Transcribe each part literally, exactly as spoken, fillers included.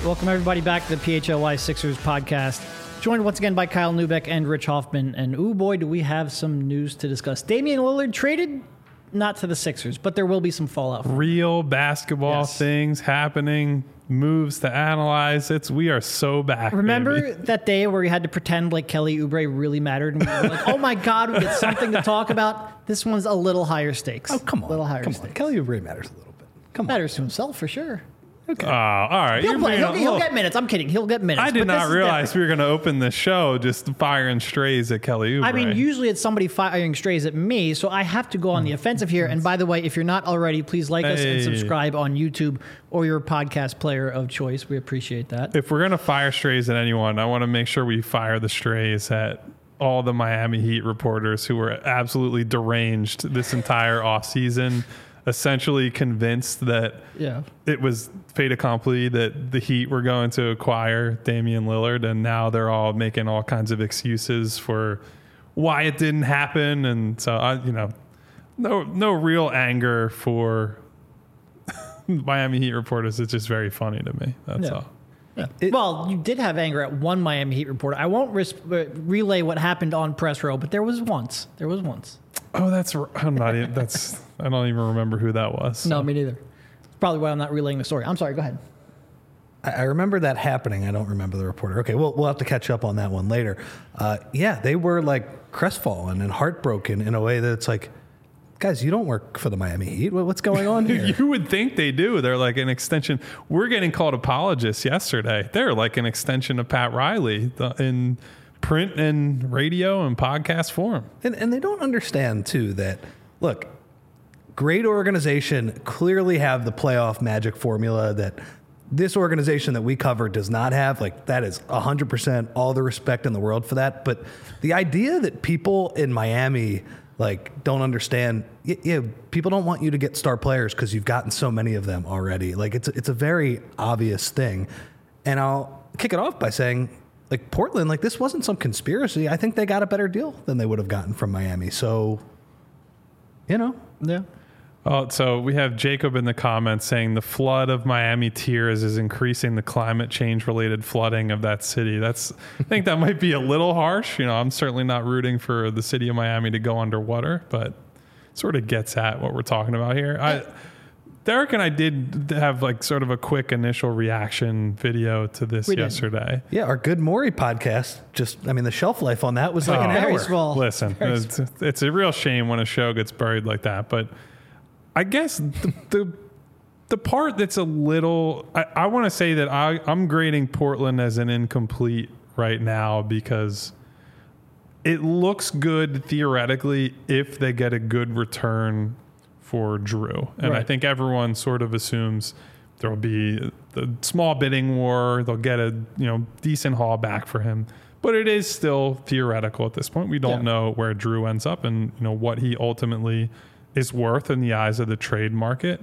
Welcome everybody back to the P H L Y Sixers podcast. Joined once again by Kyle Neubeck and Rich Hoffman. And ooh boy, do we have some news to discuss. Damian Lillard traded, not to the Sixers, but there will be some fallout. Real basketball yes. things happening, moves to analyze. It's we are so back. Remember baby. that day where we had to pretend like Kelly Oubre really mattered, and we were like, "Oh my God, we get something to talk about." This one's a little higher stakes. Oh come on, a little higher come stakes. on. Kelly Oubre matters a little bit. Come on, matters to himself for sure. Okay. Uh, all right. He'll, play, he'll, a, he'll look, get minutes. I'm kidding. He'll get minutes. I did but not realize we were going to open the show just firing strays at Kelly Oubre. I mean, usually it's somebody firing strays at me, so I have to go on the offensive here. And by the way, if you're not already, please like us hey. and subscribe on YouTube or your podcast player of choice. We appreciate that. If we're going to fire strays at anyone, I want to make sure we fire the strays at all the Miami Heat reporters who were absolutely deranged this entire offseason. Essentially convinced that yeah. it was fait accompli that the Heat were going to acquire Damian Lillard, and now they're all making all kinds of excuses for why it didn't happen. And so, I, you know, no no real anger for Miami Heat reporters. It's just very funny to me. That's yeah. all. Yeah. It, well, you did have anger at one Miami Heat reporter. I won't ris- relay what happened on press row, but there was once. There was once. Oh, that's I'm not even. That's I don't even remember who that was. So. No, me neither. It's probably why I'm not relaying the story. I'm sorry. Go ahead. I, I remember that happening. I don't remember the reporter. Okay, we'll we'll have to catch up on that one later. Uh, yeah, they were like crestfallen and heartbroken in a way that it's like, guys, you don't work for the Miami Heat. What's going on here? You would think they do. They're like an extension. We're getting called apologists yesterday. They're like an extension of Pat Riley in print and radio and podcast form. And, and they don't understand, too, that, look, great organization clearly have the playoff magic formula that this organization that we cover does not have. Like, that is one hundred percent all the respect in the world for that. But the idea that people in Miami like don't understand, yeah, yeah, people don't want you to get star players because you've gotten so many of them already. Like it's it's a very obvious thing. And I'll kick it off by saying, like Portland, like this wasn't some conspiracy. I think they got a better deal than they would have gotten from Miami. So, you know, yeah. Oh, so we have Jacob in the comments saying the flood of Miami tears is increasing the climate change related flooding of that city. That's, I think that might be a little harsh. You know, I'm certainly not rooting for the city of Miami to go underwater, but sort of gets at what we're talking about here. I, Derek and I did have like sort of a quick initial reaction video to this we yesterday. Did. Yeah, our Good Morey podcast, just, I mean, the shelf life on that was like oh, an very hour. Small. Listen, very it's, small. it's a real shame when a show gets buried like that, but I guess the the, the part that's a little, I, I want to say that I, I'm grading Portland as an incomplete right now because it looks good theoretically if they get a good return for Drew. And right. I think everyone sort of assumes there'll be the small bidding war. They'll get a you know decent haul back for him. But it is still theoretical at this point. We don't yeah. know where Drew ends up and you know what he ultimately is worth in the eyes of the trade market.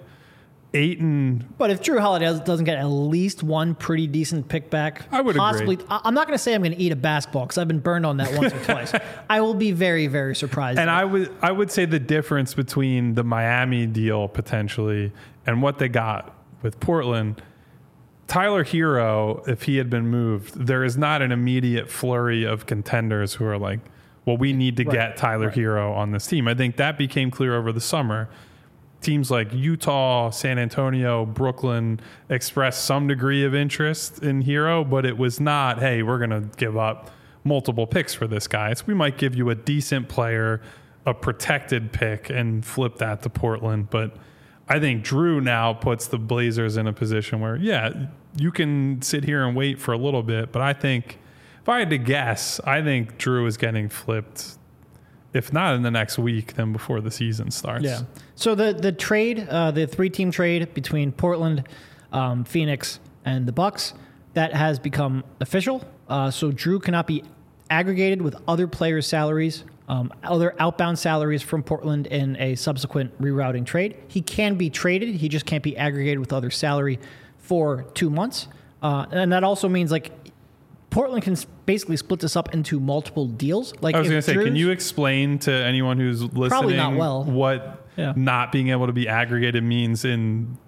Ayton. But if Drew Holiday doesn't get at least one pretty decent pick back, I would possibly, agree. I'm not going to say I'm going to eat a basketball because I've been burned on that once or twice. I will be very, very surprised. And I would, I would say the difference between the Miami deal potentially and what they got with Portland, Tyler Hero, if he had been moved, there is not an immediate flurry of contenders who are like, well, we need to right. get Tyler right. Hero on this team. I think that became clear over the summer. Teams like Utah, San Antonio, Brooklyn expressed some degree of interest in Hero, but it was not, hey, we're going to give up multiple picks for this guy. So we might give you a decent player, a protected pick, and flip that to Portland. But I think Drew now puts the Blazers in a position where, yeah, you can sit here and wait for a little bit, but I think if I had to guess, I think Drew is getting flipped, if not in the next week, then before the season starts. Yeah. So the the trade, uh, the three-team trade between Portland, um, Phoenix, and the Bucks, that has become official. Uh, so Drew cannot be aggregated with other players' salaries, um, other outbound salaries from Portland in a subsequent rerouting trade. He can be traded. He just can't be aggregated with other salary for two months. Uh, and that also means like Portland can basically split this up into multiple deals. Like I was going to say, Drew's, can you explain to anyone who's listening Probably not well. what Yeah. not being able to be aggregated means in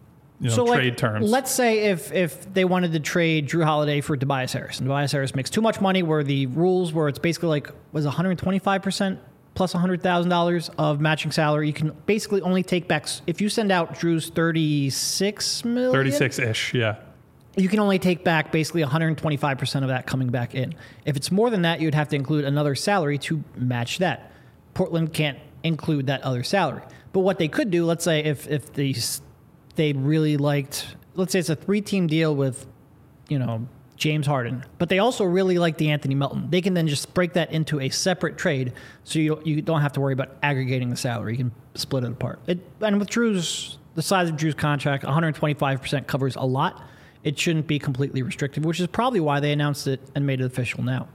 you know, so trade like, terms. Let's say if if they wanted to trade Drew Holiday for Tobias Harris, and Tobias Harris makes too much money, where the rules where it's basically like was one hundred twenty-five percent plus one hundred thousand dollars of matching salary, you can basically only take back if you send out Drew's thirty-six million, thirty-six ish, yeah. You can only take back basically one hundred twenty-five percent of that coming back in. If it's more than that, you'd have to include another salary to match that. Portland can't include that other salary. But what they could do, let's say if if they they really liked, let's say it's a three-team deal with, you know, James Harden, but they also really like DeAnthony Melton. They can then just break that into a separate trade, so you you don't have to worry about aggregating the salary. You can split it apart. It, and with Drew's the size of Drew's contract, one hundred twenty-five percent covers a lot. It shouldn't be completely restrictive, which is probably why they announced it and made it official now.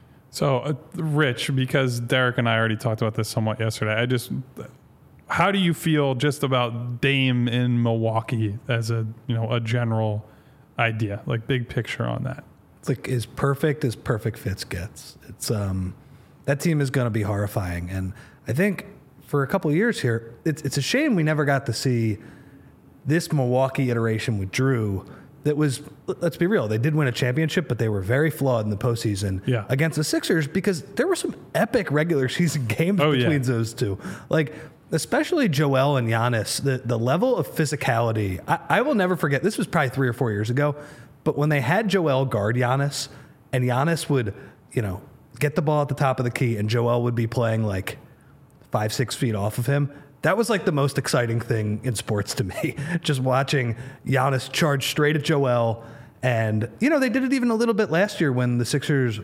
So, uh, Rich, because Derek and I already talked about this somewhat yesterday, I just, how do you feel just about Dame in Milwaukee as a, you know, a general idea, like big picture on that? It's like as perfect as perfect fits gets. It's um, that team is going to be horrifying, and I think for a couple of years here, it's it's a shame we never got to see this Milwaukee iteration with Drew. That was, let's be real, they did win a championship, but they were very flawed in the postseason yeah. against the Sixers because there were some epic regular season games oh, between yeah. those two. Like, especially Joel and Giannis, the, the level of physicality, I, I will never forget. This was probably three or four years ago, but when they had Joel guard Giannis, and Giannis would, you know, get the ball at the top of the key, and Joel would be playing like five, six feet off of him. That was like the most exciting thing in sports to me, just watching Giannis charge straight at Joel. And, you know, they did it even a little bit last year when the Sixers,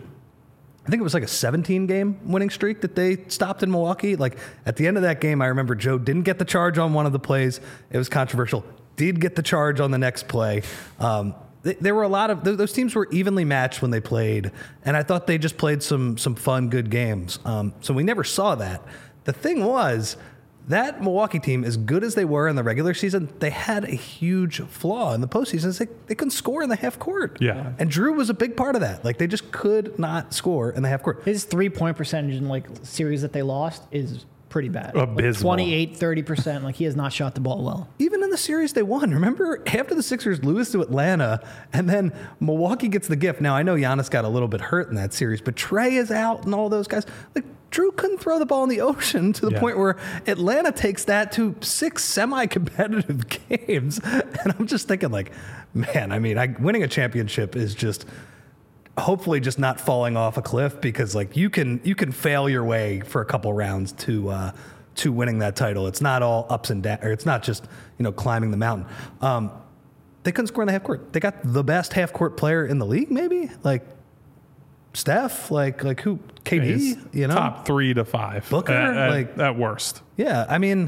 I think it was like a seventeen game winning streak that they stopped in Milwaukee. Like at the end of that game, I remember Joe didn't get the charge on one of the plays. It was controversial. Did get the charge on the next play. Um, th- there were a lot of, th- those teams were evenly matched when they played. And I thought they just played some, some fun, good games. Um, so we never saw that. The thing was, that Milwaukee team, as good as they were in the regular season, they had a huge flaw in the postseason. They, they couldn't score in the half court. Yeah. And Drew was a big part of that. Like, they just could not score in the half court. His three-point percentage in, like, series that they lost is pretty bad. Abysmal. Like twenty-eight, thirty percent. Like, he has not shot the ball well. Even in the series they won. Remember, after the Sixers lose to Atlanta, and then Milwaukee gets the gift. Now, I know Giannis got a little bit hurt in that series, but Trey is out and all those guys. Like, Drew couldn't throw the ball in the ocean to the yeah. point where Atlanta takes that to six semi-competitive games. And I'm just thinking, like, man, I mean, I, winning a championship is just hopefully just not falling off a cliff, because like you can you can fail your way for a couple rounds to uh, to winning that title. It's not all ups and downs, or it's not just, you know, climbing the mountain. Um, they couldn't score in the half court. They got the best half court player in the league, maybe like Steph, like like who? K D, He's you know, top three to five. Booker, at, at, like at worst. Yeah, I mean,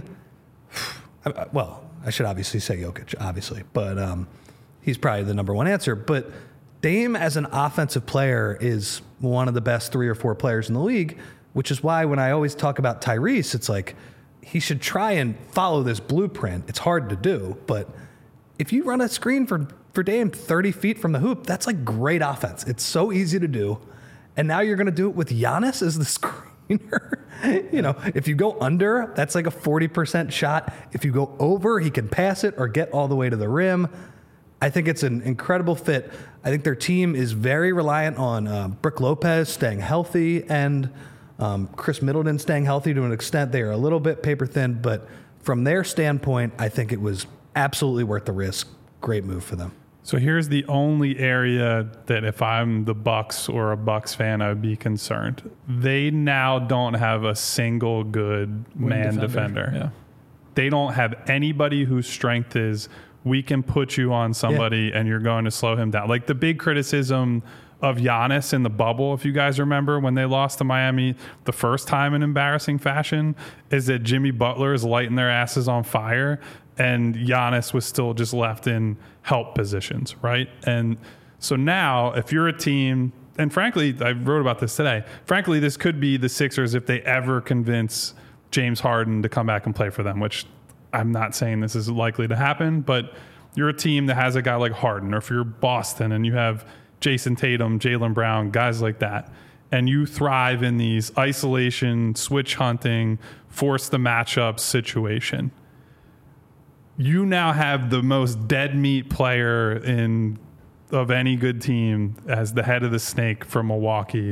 I, well, I should obviously say Jokic, obviously, but um, he's probably the number one answer. But Dame as an offensive player is one of the best three or four players in the league, which is why when I always talk about Tyrese, it's like he should try and follow this blueprint. It's hard to do, but if you run a screen for, for Dame thirty feet from the hoop, that's like great offense. It's so easy to do. And now you're going to do it with Giannis as the screener. You know, if you go under, that's like a forty percent shot. If you go over, he can pass it or get all the way to the rim. I think it's an incredible fit. I think their team is very reliant on uh, Brook Lopez staying healthy and um, Chris Middleton staying healthy to an extent. They are a little bit paper thin, but from their standpoint, I think it was absolutely worth the risk. Great move for them. So here's the only area that if I'm the Bucks or a Bucks fan, I would be concerned. They now don't have a single good Wing man defender. defender. Yeah. They don't have anybody whose strength is we can put you on somebody yeah. and you're going to slow him down. Like the big criticism of Giannis in the bubble, if you guys remember when they lost to Miami the first time in embarrassing fashion, is that Jimmy Butler is lighting their asses on fire and Giannis was still just left in help positions, right? And so now if you're a team, and frankly, I wrote about this today, frankly, this could be the Sixers if they ever convince James Harden to come back and play for them, which I'm not saying this is likely to happen, but you're a team that has a guy like Harden, or if you're Boston and you have Jason Tatum, Jaylen Brown, guys like that, and you thrive in these isolation, switch hunting, force the matchup situation. you now have the most dead meat player in of any good team as the head of the snake from Milwaukee,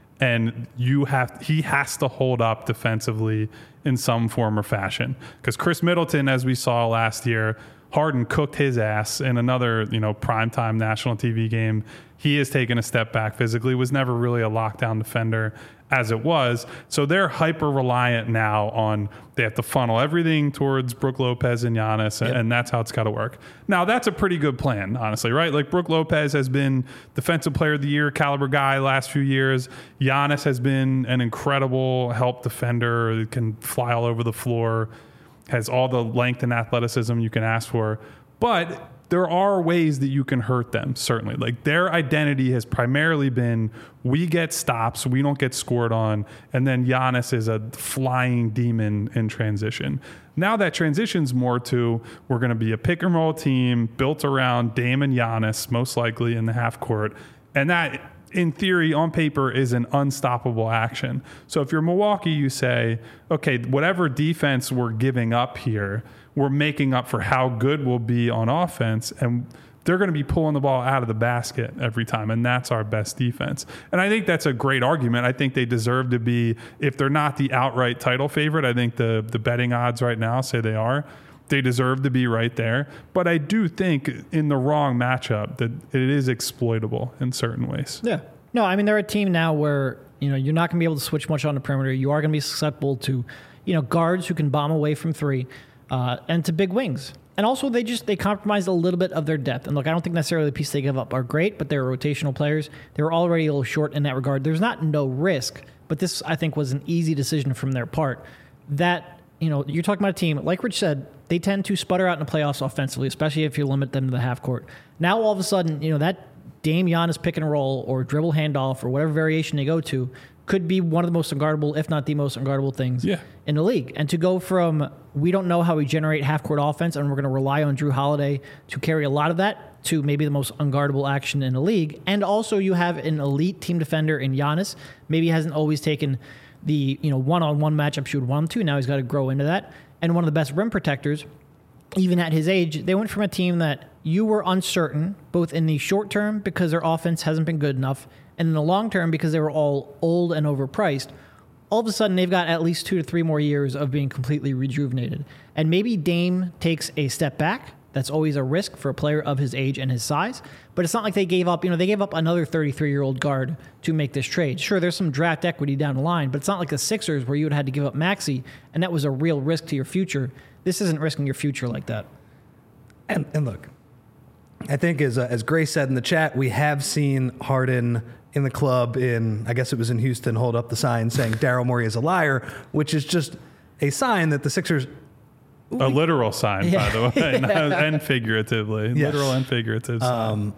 and you have he has to hold up defensively in some form or fashion. Because Chris Middleton, as we saw last year, Harden cooked his ass in another, you know, primetime national T V game. He has taken a step back physically, was never really a lockdown defender as it was. So they're hyper reliant now on, they have to funnel everything towards Brook Lopez and Giannis, and, Yep. and that's how it's got to work. Now, that's a pretty good plan, honestly, right? Like Brook Lopez has been defensive player of the year caliber guy last few years. Giannis has been an incredible help defender, can fly all over the floor, has all the length and athleticism you can ask for. But there are ways that you can hurt them, certainly. Like their identity has primarily been, we get stops, we don't get scored on, and then Giannis is a flying demon in transition. Now that transition's more to, we're going to be a pick and roll team built around Dame and Giannis, most likely in the half court. And that, in theory, on paper, is an unstoppable action. So if you're Milwaukee, you say, okay, whatever defense we're giving up here, we're making up for how good we'll be on offense, and they're going to be pulling the ball out of the basket every time, and that's our best defense. And I think that's a great argument. I think they deserve to be, if they're not the outright title favorite, I think the the betting odds right now say they are. They deserve to be right there. But I do think in the wrong matchup that it is exploitable in certain ways. Yeah. No, I mean, they're a team now where, you know, you're not going to be able to switch much on the perimeter. You are going to be susceptible to, you know, guards who can bomb away from three, uh, and to big wings. And also, they just, they compromised a little bit of their depth. And look, I don't think necessarily the pieces they give up are great, but they're rotational players. They were already a little short in that regard. There's not no risk, but this, I think, was an easy decision from their part. That, you know, you're talking about a team, like Rich said, they tend to sputter out in the playoffs offensively, especially if you limit them to the half court. Now, all of a sudden, you know, that Dame Giannis pick and roll or dribble handoff or whatever variation they go to could be one of the most unguardable, if not the most unguardable things yeah. in the league. And to go from, we don't know how we generate half-court offense and we're going to rely on Drew Holiday to carry a lot of that, to maybe the most unguardable action in the league. And also you have an elite team defender in Giannis. Maybe he hasn't always taken the, you know, one-on-one matchups you would want him to. Now he's got to grow into that. And one of the best rim protectors, even at his age. They went from a team that you were uncertain, both in the short term because their offense hasn't been good enough, and in the long term because they were all old and overpriced. All of a sudden, they've got at least two to three more years of being completely rejuvenated. And maybe Dame takes a step back. That's always a risk for a player of his age and his size. But it's not like they gave up, you know, they gave up another thirty-three-year-old guard to make this trade. Sure, there's some draft equity down the line, but it's not like the Sixers where you would have had to give up Maxey, and that was a real risk to your future. This isn't risking your future like that. And, and look, I think as uh, as Grace said in the chat, we have seen Harden in the club in, I guess it was in Houston, hold up the sign saying Daryl Morey is a liar, which is just a sign that the Sixers... A literal sign, Yeah. by the way, not- and figuratively. Yes. Literal and figurative sign. Um,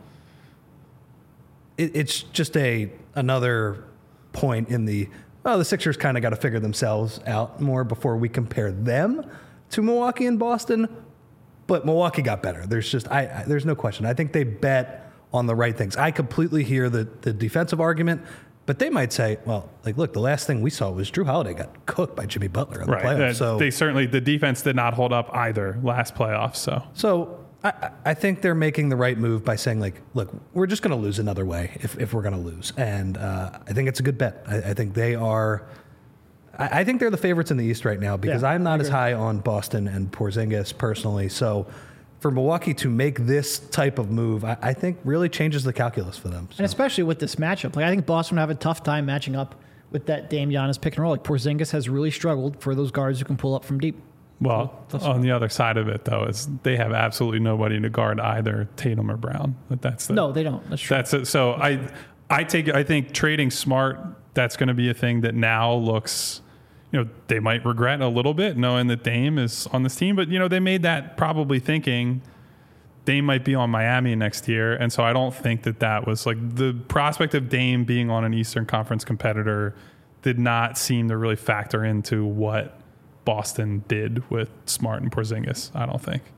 it, it's just a another point in the, oh, the Sixers kind of got to figure themselves out more before we compare them to Milwaukee and Boston. But Milwaukee got better. There's just, I, I there's no question. I think they bet on the right things. I completely hear the, the defensive argument, but they might say, well, like, look, the last thing we saw was Drew Holiday got cooked by Jimmy Butler in the right. playoffs. Uh, So they certainly, the defense did not hold up either last playoffs. So So I, I think they're making the right move by saying, like, look, we're just going to lose another way if, if we're going to lose. And uh, I think it's a good bet. I, I think they are, I, I think they're the favorites in the East right now because Yeah, I'm I not as agree. high on Boston and Porzingis personally. So for Milwaukee to make this type of move, I, I think really changes the calculus for them. So. And especially with this matchup. Like, I think Boston would have a tough time matching up with that Dame Giannis pick and roll. Like, Porzingis has really struggled for those guards who can pull up from deep. Well, on the other side of it, though, is they have absolutely nobody to guard either Tatum or Brown. But that's the, No, they don't. That's true. That's it. So I, I take. I think trading Smart. That's going to be a thing that now looks. You know, they might regret a little bit knowing that Dame is on this team, but you know they made that probably thinking Dame might be on Miami next year, and so I don't think that that was like the prospect of Dame being on an Eastern Conference competitor did not seem to really factor into what Boston did with Smart and Porzingis. I don't think.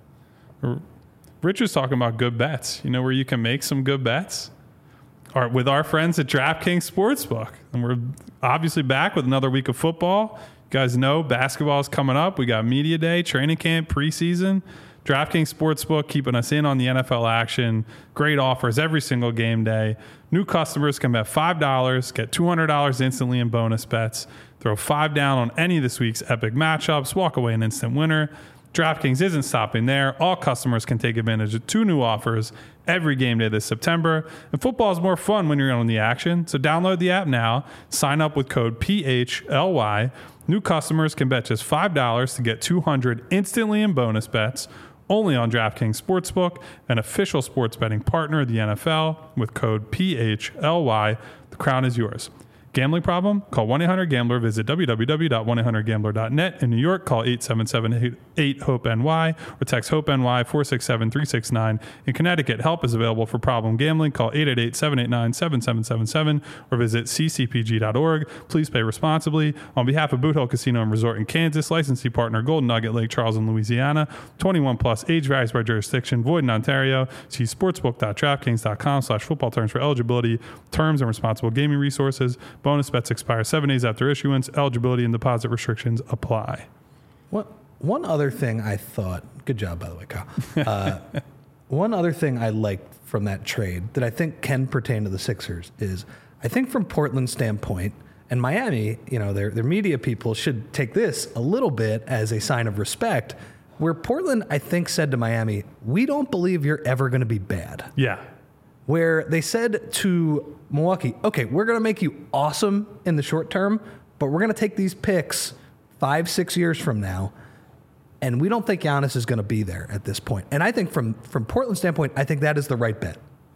Rich was talking about good bets, you know, where you can make some good bets. Or with our friends at DraftKings Sportsbook. And we're obviously back with another week of football. You guys know basketball is coming up. We got media day, training camp, preseason. DraftKings Sportsbook, keeping us in on the N F L action. Great offers every single game day. New customers can bet five dollars, get two hundred dollars instantly in bonus bets. Throw five down on any of this week's epic matchups, walk away an instant winner. DraftKings isn't stopping there. All customers can take advantage of two new offers every game day this September. And football is more fun when you're on the action. So download the app now. Sign up with code P H L Y. New customers can bet just five dollars to get two hundred dollars instantly in bonus bets. Only on DraftKings Sportsbook, an official sports betting partner of the N F L, with code P H L Y. The crown is yours. Gambling problem? Call one eight hundred gambler. Visit w w w dot one eight hundred gambler dot net. In New York, call eight seven seven eight hope N Y or text HOPE-NY four six seven three six nine. In Connecticut, help is available for problem gambling. Call eight eight eight seven eight nine seven seven seven seven or visit c c p g dot org. Please pay responsibly. On behalf of Boot Hill Casino and Resort in Kansas, licensee partner Golden Nugget, Lake Charles, and Louisiana. twenty-one plus, age varies by jurisdiction, void in Ontario. See sportsbook dot draftkings dot com slash football terms for eligibility, terms, and responsible gaming resources. Bonus bets expire seven days after issuance. Eligibility and deposit restrictions apply. What one other thing I thought, good job by the way, Kyle. Uh, one other thing I liked from that trade that I think can pertain to the Sixers is, I think from Portland's standpoint, and Miami, you know, their their media people should take this a little bit as a sign of respect, where Portland, I think, said to Miami, we don't believe you're ever going to be bad. Yeah. Where they said to Milwaukee, okay, we're going to make you awesome in the short term, but we're going to take these picks five, six years from now, and we don't think Giannis is going to be there at this point. And I think from, from Portland's standpoint, I think that is the right bet.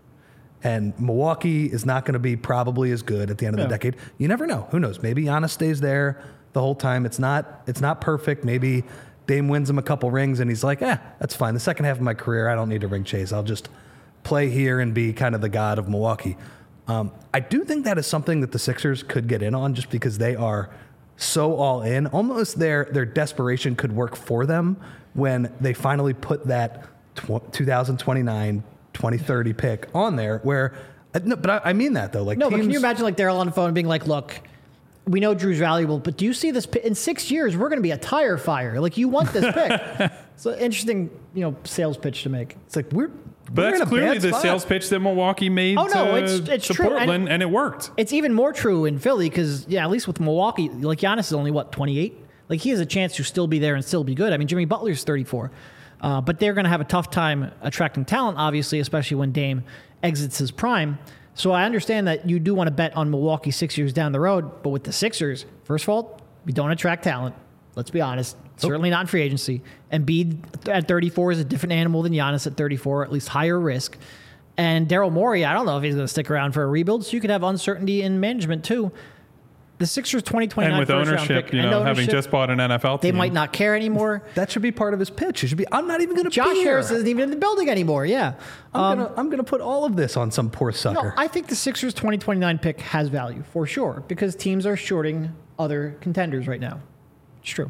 And Milwaukee is not going to be probably as good at the end of Yeah. the decade. You never know. Who knows? Maybe Giannis stays there the whole time. It's not it's not perfect. Maybe Dame wins him a couple rings, and he's like, eh, that's fine. The second half of my career, I don't need to ring chase. I'll just play here and be kind of the god of Milwaukee. Um, I do think that is something that the Sixers could get in on, just because they are so all in. Almost their their desperation could work for them when they finally put that tw- twenty twenty-nine, twenty thirty pick on there. Where, uh, no, but I, I mean that though. Like No, teams, but can you imagine like Daryl on the phone being like, look, we know Drew's valuable, but do you see this? Pick? In six years, we're going to be a tire fire. Like, you want this pick. It's an interesting, you know, sales pitch to make. It's like we're. But we're that's in a clearly bad the spot. sales pitch that Milwaukee made Oh, no, to, it's- it's to true. Portland, And- and it worked. It's even more true in Philly because, yeah, at least with Milwaukee, like Giannis is only, what, twenty-eight? Like, he has a chance to still be there and still be good. I mean, Jimmy Butler's thirty-four. Uh, but they're going to have a tough time attracting talent, obviously, especially when Dame exits his prime. So I understand that you do want to bet on Milwaukee six years down the road, but with the Sixers, first of all, we don't attract talent. Let's be honest. Certainly not in free agency. Embiid at thirty-four is a different animal than Giannis at thirty-four, at least higher risk. And Daryl Morey, I don't know if he's going to stick around for a rebuild, so you could have uncertainty in management too. The Sixers twenty twenty-nine And with first round ownership, pick, you and know, ownership, having just bought an N F L they team. might not care anymore. That should be part of his pitch. It should be, I'm not even going to Josh be here. Harris isn't even in the building anymore. Yeah. I'm Um, gonna I'm gonna put all of this on some poor no, sucker. I think the Sixers twenty twenty-nine pick has value for sure because teams are shorting other contenders right now. It's true.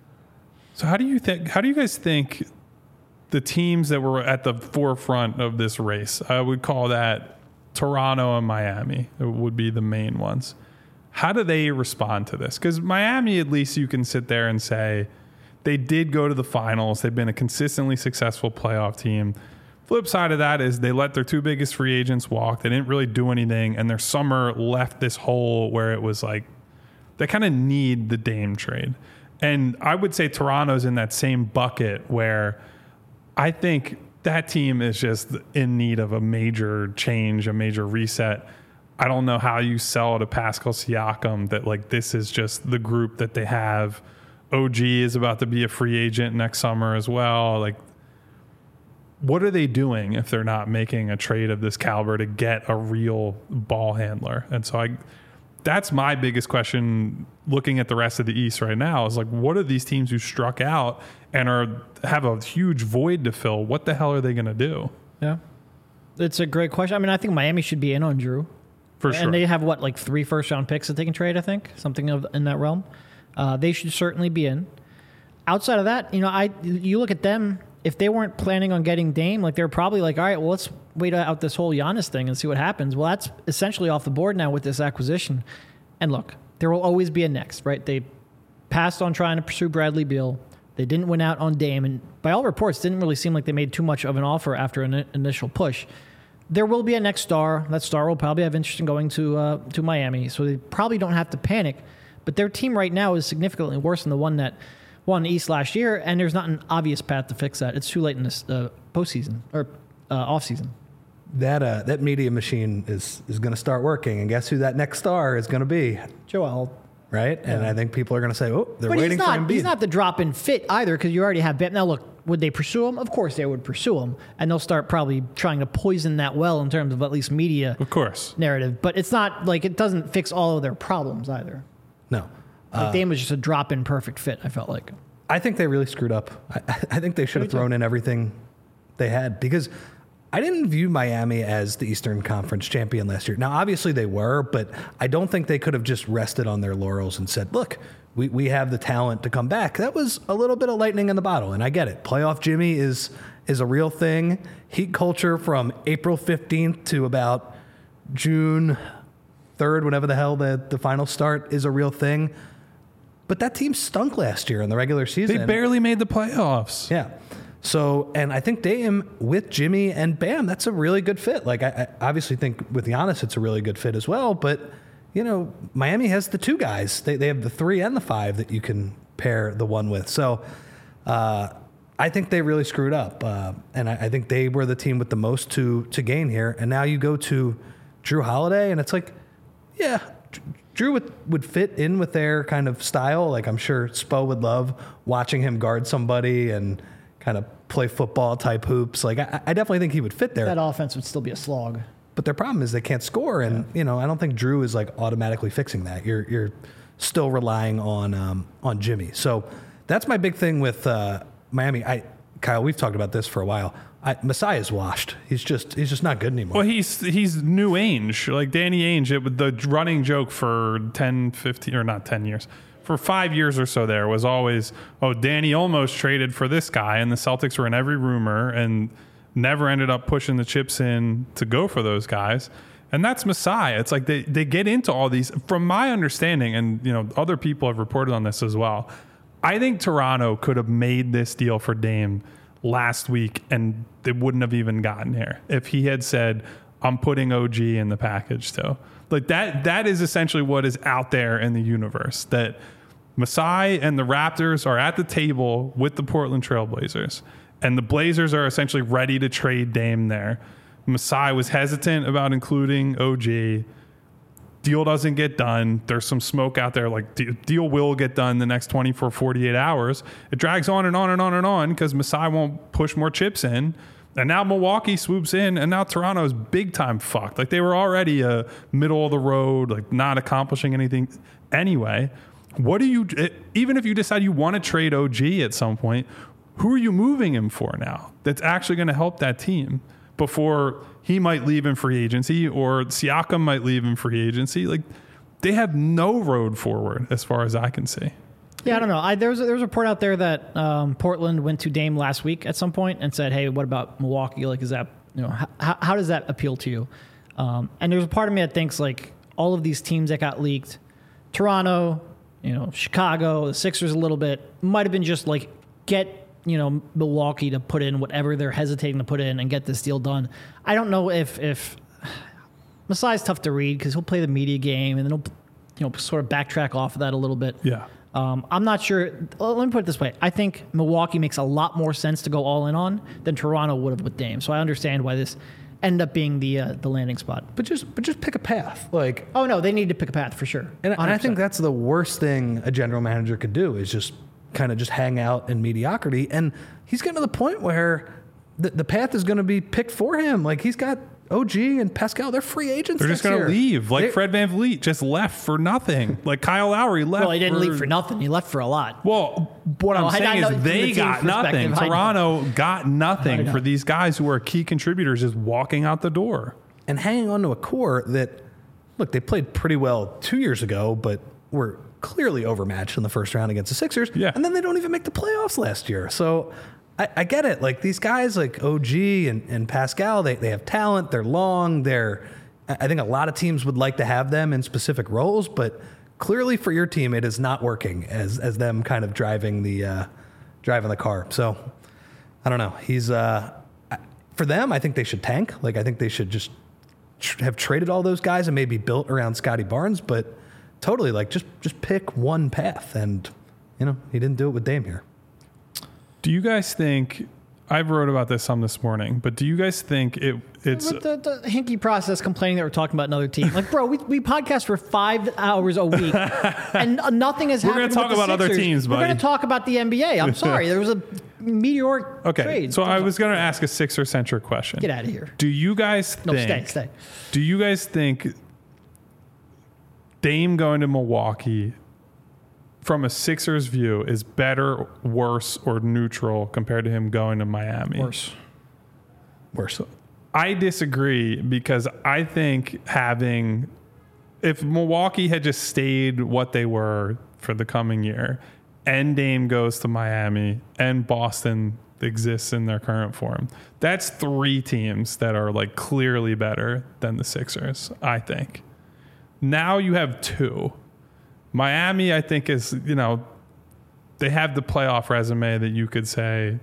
So how do you think? How do you guys think the teams that were at the forefront of this race? I would call that Toronto and Miami would be the main ones. How do they respond to this? Because Miami, at least you can sit there and say they did go to the finals. They've been a consistently successful playoff team. Flip side of that is they let their two biggest free agents walk. They didn't really do anything, and their summer left this hole where it was like they kind of need the Dame trade. And I would say Toronto's in that same bucket where I think that team is just in need of a major change, a major reset. I don't know how you sell to Pascal Siakam that like this is just the group that they have. O G is about to be a free agent next summer as well. Like, what are they doing if they're not making a trade of this caliber to get a real ball handler? And so I, that's my biggest question looking at the rest of the East right now is like, what are these teams who struck out and are have a huge void to fill? What the hell are they going to do? Yeah. It's a great question. I mean, I think Miami should be in on Drew. For sure. And they have, what, like three first-round picks that they can trade, I think? Something of in that realm. Uh, they should certainly be in. Outside of that, you know, I you look at them, if they weren't planning on getting Dame, like they're probably like, all right, well, let's wait out this whole Giannis thing and see what happens. Well, that's essentially off the board now with this acquisition. And look, there will always be a next, right? They passed on trying to pursue Bradley Beal. They didn't win out on Dame, and by all reports, didn't really seem like they made too much of an offer after an initial push. There will be a next star. That star will probably have interest in going to uh, to Miami, so they probably don't have to panic. But their team right now is significantly worse than the one that won the East last year, and there's not an obvious path to fix that. It's too late in this uh, postseason or uh, offseason. That uh, that media machine is is going to start working, and guess who that next star is going to be? Joel. Right? And Yeah. I think people are going to say, oh, they're But waiting he's for not, Embiid. he's not the drop-in fit either because you already have Bam. Now, look, would they pursue him? Of course they would pursue him, and they'll start probably trying to poison that well in terms of at least media Of course. narrative. But it's not like it doesn't fix all of their problems either. No. Like Dame was just a drop-in perfect fit, I felt like. I think they really screwed up. I, I think they should have thrown in everything they had because I didn't view Miami as the Eastern Conference champion last year. Now, obviously they were, but I don't think they could have just rested on their laurels and said, look, we, we have the talent to come back. That was a little bit of lightning in the bottle, and I get it. Playoff Jimmy is is a real thing. Heat culture from April fifteenth to about June third, whenever the hell the, the finals start, is a real thing. But that team stunk last year in the regular season. They barely made the playoffs. Yeah. So, and I think Dame with Jimmy and Bam, that's a really good fit. Like, I, I obviously think with Giannis, it's a really good fit as well. But, you know, Miami has the two guys. They, they have the three and the five that you can pair the one with. So, uh, I think they really screwed up. Uh, and I, I think they were the team with the most to, to gain here. And now you go to Drew Holiday, and it's like, yeah, Drew would, would fit in with their kind of style. Like, I'm sure Spo would love watching him guard somebody and kind of play football type hoops. Like, I, I definitely think he would fit there. That offense would still be a slog. But their problem is they can't score. And, yeah. you know, I don't think Drew is like automatically fixing that. You're, you're still relying on, um, on Jimmy. So that's my big thing with, uh, Miami. I, Kyle, we've talked about this for a while. I, Masai is washed. He's just he's just not good anymore. Well, he's he's new Ainge, like Danny Ainge. It was the running joke for ten, fifteen, or not ten years. For five years or so there was always, oh, Danny almost traded for this guy, and the Celtics were in every rumor and never ended up pushing the chips in to go for those guys. And that's Masai. It's like they, they get into all these, from my understanding, and you know other people have reported on this as well, I think Toronto could have made this deal for Dame last week and they wouldn't have even gotten here if he had said, I'm putting O G in the package too. Like that, that is essentially what is out there in the universe, that Masai and the Raptors are at the table with the Portland Trailblazers, and the Blazers are essentially ready to trade Dame there. Masai was hesitant about including O G. Deal doesn't get done. There's some smoke out there. Like, deal will get done the next twenty-four, forty-eight hours. It drags on and on and on and on because Masai won't push more chips in. And now Milwaukee swoops in, and now Toronto's big time fucked. Like, they were already a middle of the road, like not accomplishing anything anyway. What do you, even if you decide you want to trade O G at some point, who are you moving him for now that's actually going to help that team before he might leave in free agency or Siakam might leave in free agency? Like, they have no road forward as far as I can see. Yeah, I don't know. I, there was a, there was a report out there that um, Portland went to Dame last week at some point and said, "Hey, what about Milwaukee? Like, is that, you know, how, how does that appeal to you?" Um, and there's a part of me that thinks like all of these teams that got leaked, Toronto, you know, Chicago, the Sixers, a little bit, might have been just like get, you know, Milwaukee to put in whatever they're hesitating to put in and get this deal done. I don't know if if Masai's tough to read because he'll play the media game and then he'll, you know, sort of backtrack off of that a little bit. Yeah. Um, I'm not sure. Let me put it this way. I think Milwaukee makes a lot more sense to go all in on than Toronto would have with Dame. So I understand why this ended up being the uh, the landing spot. But just but just pick a path. Like, oh no, they need to pick a path for sure. And, and I think that's the worst thing a general manager could do is just kind of just hang out in mediocrity. And he's getting to the point where the, the path is going to be picked for him. Like, he's got O G and Pascal, they're free agents. They're just going to leave. Like, they, Fred VanVleet just left for nothing. Like, Kyle Lowry left. Well, he didn't for, leave for nothing. He left for a lot. Well, what well, I'm saying is they the got nothing. Toronto got nothing for these guys who are key contributors just walking out the door. And hanging on to a core that, look, they played pretty well two years ago, but were clearly overmatched in the first round against the Sixers. Yeah. And then they don't even make the playoffs last year. So I, I get it. Like, these guys like O G and, and Pascal, they, they have talent. They're long. They're, I think a lot of teams would like to have them in specific roles, but clearly for your team, it is not working as as them kind of driving the uh, driving the car. So I don't know. He's uh, for them. I think they should tank. Like I think they should just tr- have traded all those guys and maybe built around Scotty Barnes. But totally, like just just pick one path. And you know, he didn't do it with Dame here. Do you guys think? I wrote about this some this morning, but do you guys think it it's With the, the hinky process complaining that we're talking about another team? Like, bro, we, we podcast for five hours a week, and nothing has We're happened. gonna talk with the about other Sixers. teams, We're buddy. going to talk about the N B A. I'm sorry, there was a meteoric okay? trade. So I was going to ask a Sixer centric question. Get out of here. Do you guys think? No, stay, stay. Do you guys think Dame going to Milwaukee, from a Sixers view, is better, worse, or neutral compared to him going to Miami? Worse. Worse. I disagree because I think having, if Milwaukee had just stayed what they were for the coming year, and Dame goes to Miami, and Boston exists in their current form, that's three teams that are like clearly better than the Sixers, I think. Now you have two. Miami, I think, is, you know, they have the playoff resume that you could say,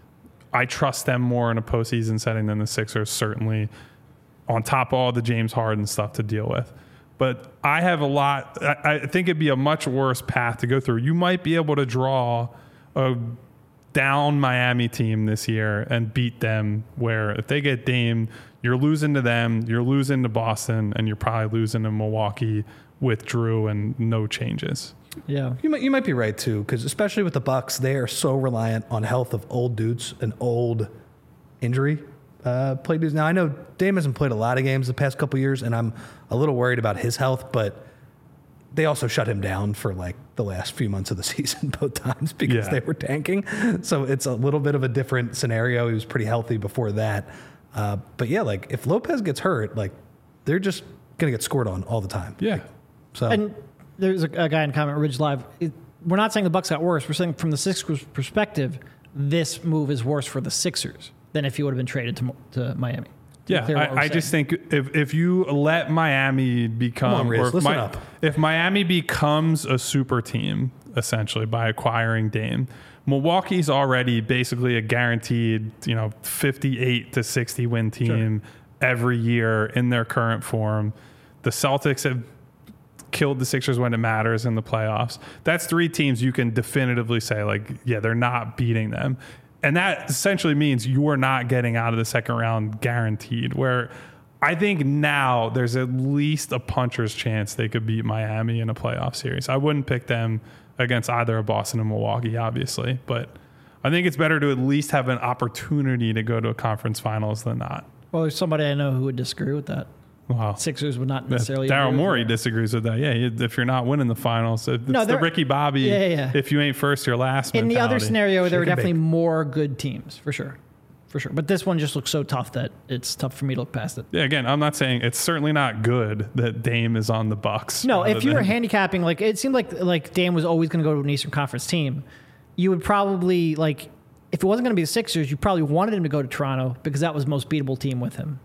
I trust them more in a postseason setting than the Sixers, certainly, on top of all the James Harden stuff to deal with. But I have a lot, I, I think it'd be a much worse path to go through. You might be able to draw a down Miami team this year and beat them, where if they get Dame, you're losing to them, you're losing to Boston, and you're probably losing to Milwaukee with Drew and no changes. Yeah. You might you might be right too, because especially with the Bucks, they are so reliant on health of old dudes and old injury uh, play dudes. Now I know Dame hasn't played a lot of games the past couple years, and I'm a little worried about his health, but they also shut him down for like the last few months of the season both times because Yeah. they were tanking. So it's a little bit of a different scenario. He was pretty healthy before that. Uh, but yeah, like if Lopez gets hurt, like they're just going to get scored on all the time. Yeah. So And there's a, a guy in comment, Ridge Live. It, we're not saying the Bucks got worse. We're saying from the Sixers' perspective, this move is worse for the Sixers than if he would have been traded to, to Miami. Yeah, Clear what we're I, I just saying. think if, if you let Miami become, Come on, Riz, or if, listen Mi- up. if Miami becomes a super team, essentially, by acquiring Dame, Milwaukee's already basically a guaranteed, you know, fifty-eight to sixty win team every year in their current form. The Celtics have killed the Sixers when it matters in the playoffs. That's three teams you can definitively say, like, yeah, they're not beating them. And that essentially means you are not getting out of the second round guaranteed, where I think now there's at least a puncher's chance they could beat Miami in a playoff series. I wouldn't pick them against either of Boston and Milwaukee, obviously, but I think it's better to at least have an opportunity to go to a conference finals than not. Well, there's somebody I know who would disagree with that. Wow. Sixers would not necessarily. Daryl agree with Morey that. disagrees with that. Yeah, if you're not winning the finals, it's No, the they're- Ricky Bobby. Yeah, yeah, yeah. If you ain't first, you're last. In the other mentality. scenario, there were Shake and definitely bake. more good teams, for sure. For sure. But this one just looks so tough that it's tough for me to look past it. Yeah, again, I'm not saying it's certainly not good that Dame is on the Bucks. No, rather if you were than- handicapping, like it seemed like like Dame was always going to go to an Eastern Conference team, you would probably like if it wasn't going to be the Sixers, you probably wanted him to go to Toronto because that was the most beatable team with him.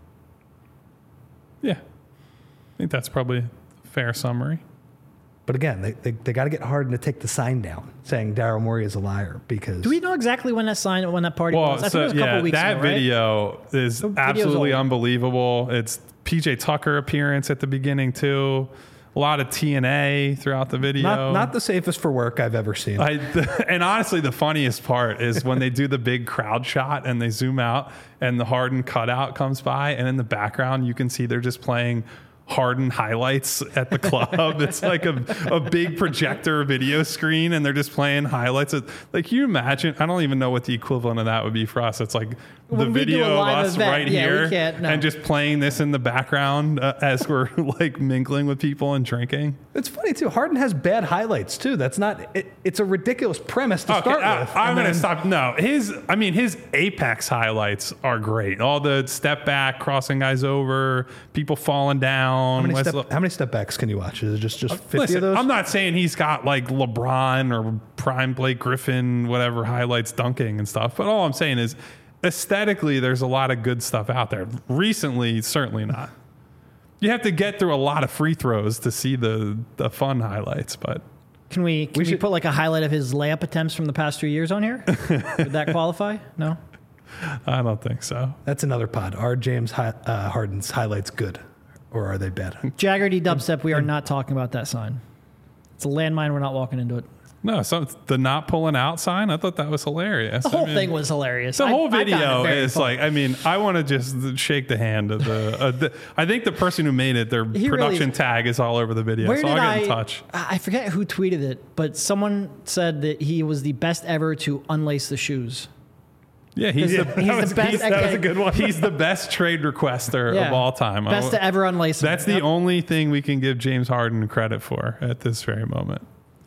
yeah, I think that's probably a fair summary. But again, they, they, they got to get Harden to take the sign down saying Daryl Morey is a liar because Do we know exactly when that sign when that party Well, was? I so, think it was a couple yeah, weeks that ago, right? video is video's absolutely old. unbelievable. It's P J Tucker appearance at the beginning too. A lot of T N A throughout the video. not not the safest for work I've ever seen. I, and honestly, the funniest part is when they do the big crowd shot and they zoom out and the Harden cutout comes by, and in the background you can see they're just playing Harden highlights at the club. It's like a, a big projector video screen, and they're just playing highlights. Of, like, can you imagine? I don't even know what the equivalent of that would be for us. It's like the When we do video a of live us event, right yeah, we here can't, no. and just playing this in the background uh, as we're like mingling with people and drinking. It's funny too. Harden has bad highlights too. That's not. It, it's a ridiculous premise to Okay, start I, with. I'm And going to then- stop. No, his, I mean, his apex highlights are great. All the step back, crossing guys over, people falling down. How many, West- step, how many step backs can you watch? Is it just just fifty Listen, of those? I'm not saying he's got like LeBron or prime Blake Griffin, whatever highlights dunking and stuff, but all I'm saying is aesthetically, there's a lot of good stuff out there. Recently, certainly not. You have to get through a lot of free throws to see the, the fun highlights, but Can we can We we, should- put like a highlight of his layup attempts from the past three years on here? Would that qualify? No. I don't think so. That's another pod. Are James Hi- uh, Harden's highlights good, or are they bad? Jaggerty dubstep. We are not talking about that sign. It's a landmine. We're not walking into it. No, so the not pulling out sign, I thought that was hilarious. The whole I mean, thing was hilarious. The I- whole I found it video very is fun. like, I mean, I want to just shake the hand of the, uh, the. I think the person who made it, their He really production is- tag is all over the video, Where so did I'll get I? in touch. I forget who tweeted it, but someone said that he was the best ever to unlace the shoes. Yeah, he's Yeah, the, he's that the was- best he's- at that was a getting- good one. He's the best trade requester Yeah. of all time. I Best w- to ever unlace. them. That's the Yep. only thing we can give James Harden credit for at this very moment.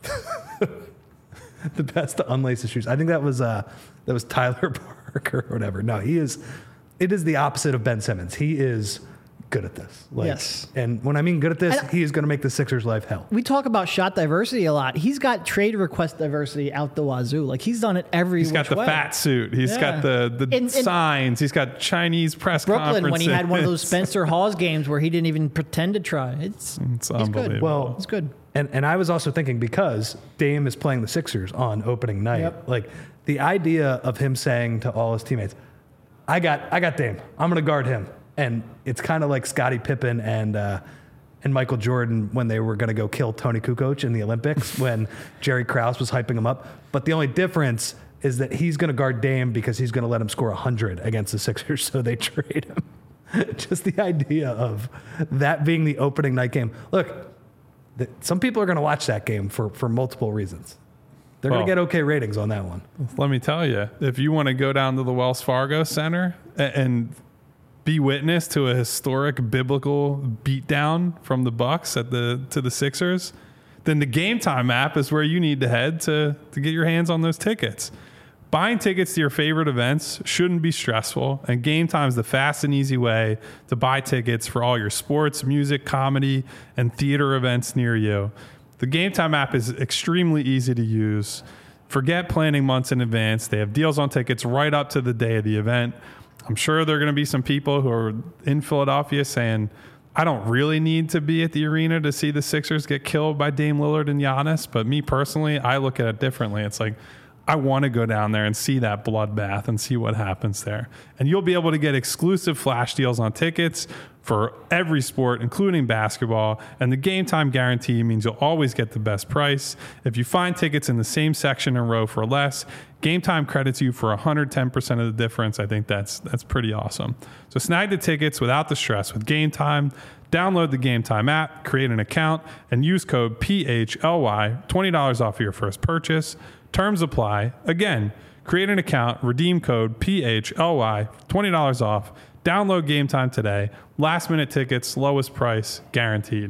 The best to unlace his shoes. I think that was uh, that was Tyler Parker or whatever. No, he is. It is the opposite of Ben Simmons. He is good at this. Like, Yes. And when I mean good at this, And- he is going to make the Sixers' life hell. We talk about shot diversity a lot. He's got trade request diversity out the wazoo. Like he's done it every. He's got the way. fat suit. He's Yeah. got the the In- in signs. He's got Chinese press Brooklyn when he had one of those conferences. Spencer Hawes games where he didn't even pretend to try. It's It's he's good. unbelievable. Well, It's good. And and I was also thinking because Dame is playing the Sixers on opening night, Yep. like the idea of him saying to all his teammates, "I got I got Dame. I'm going to guard him." And it's kind of like Scottie Pippen and uh, and Michael Jordan when they were going to go kill Tony Kukoc in the Olympics when Jerry Krause was hyping him up. But the only difference is that he's going to guard Dame because he's going to let him score one hundred against the Sixers, so they trade him. Just the idea of that being the opening night game. Look, th- some people are going to watch that game for, for multiple reasons. They're Well- going to get okay ratings on that one. Let me tell you, if you want to go down to the Wells Fargo Center a- and be witness to a historic biblical beatdown from the Bucks at the to the Sixers, then the Game Time app is where you need to head to to get your hands on those tickets. Buying tickets to your favorite events shouldn't be stressful, and Game Time is the fast and easy way to buy tickets for all your sports, music, comedy, and theater events near you. The Game Time app is extremely easy to use. Forget planning months in advance. They have deals on tickets right up to the day of the event. I'm sure there are going to be some people who are in Philadelphia saying, I don't really need to be at the arena to see the Sixers get killed by Dame Lillard and Giannis. But me personally, I look at it differently. It's like, I want to go down there and see that bloodbath and see what happens there. And you'll be able to get exclusive flash deals on tickets for every sport, including basketball. And the Game Time guarantee means you'll always get the best price. If you find tickets in the same section and row for less, Game Time credits you for one hundred ten percent of the difference. I think that's that's pretty awesome. So snag the tickets without the stress with Game Time. Download the Game Time app, create an account, and use code P H L Y, twenty dollars off of your first purchase. Terms apply. Again, create an account, redeem code P H L Y, twenty dollars off. Download Game Time today. Last minute tickets, lowest price, guaranteed.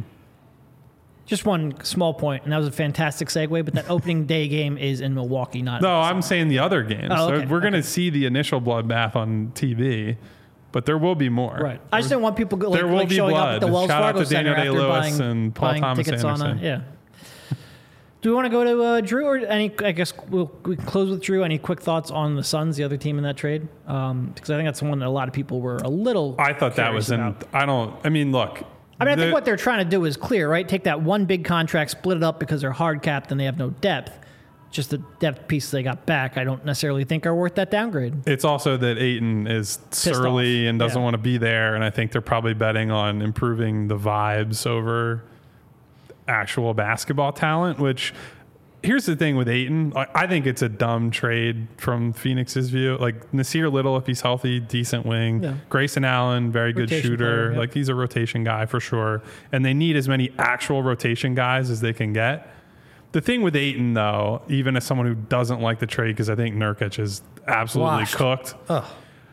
Just one small point, and that was a fantastic segue. But that opening day game is in Milwaukee, not No, I'm saying the other games. Oh, okay, So we're going to okay. see the initial bloodbath on T V, but there will be more. right. I just didn't want people go, like, There will like be showing up blood. at the Wells Shout out Fargo to Center Daniel after Day-Lewis buying, and Paul buying Thomas tickets on a Anderson. yeah. Do we want to go to uh, Drew or any? I guess we'll we can close with Drew. Any quick thoughts on the Suns, the other team in that trade? Um, because I think that's the one that a lot of people were a little. I thought that curious was in. about. I don't. I mean, look. I mean, I the- think what they're trying to do is clear, right? Take that one big contract, split it up because they're hard capped and they have no depth. Just the depth piece they got back, I don't necessarily think are worth that downgrade. It's also that Ayton is surly off. and doesn't Yeah. want to be there, and I think they're probably betting on improving the vibes over actual basketball talent. Which, here's the thing with Ayton, I I think it's a dumb trade from Phoenix's view. Like Nasir Little, if he's healthy, decent wing. Yeah. Grayson Allen, very good Rotation shooter. player, yeah. Like he's a rotation guy for sure. And they need as many actual rotation guys as they can get. The thing with Ayton, though, even as someone who doesn't like the trade, because I think Nurkic is absolutely Washed. cooked. Ugh.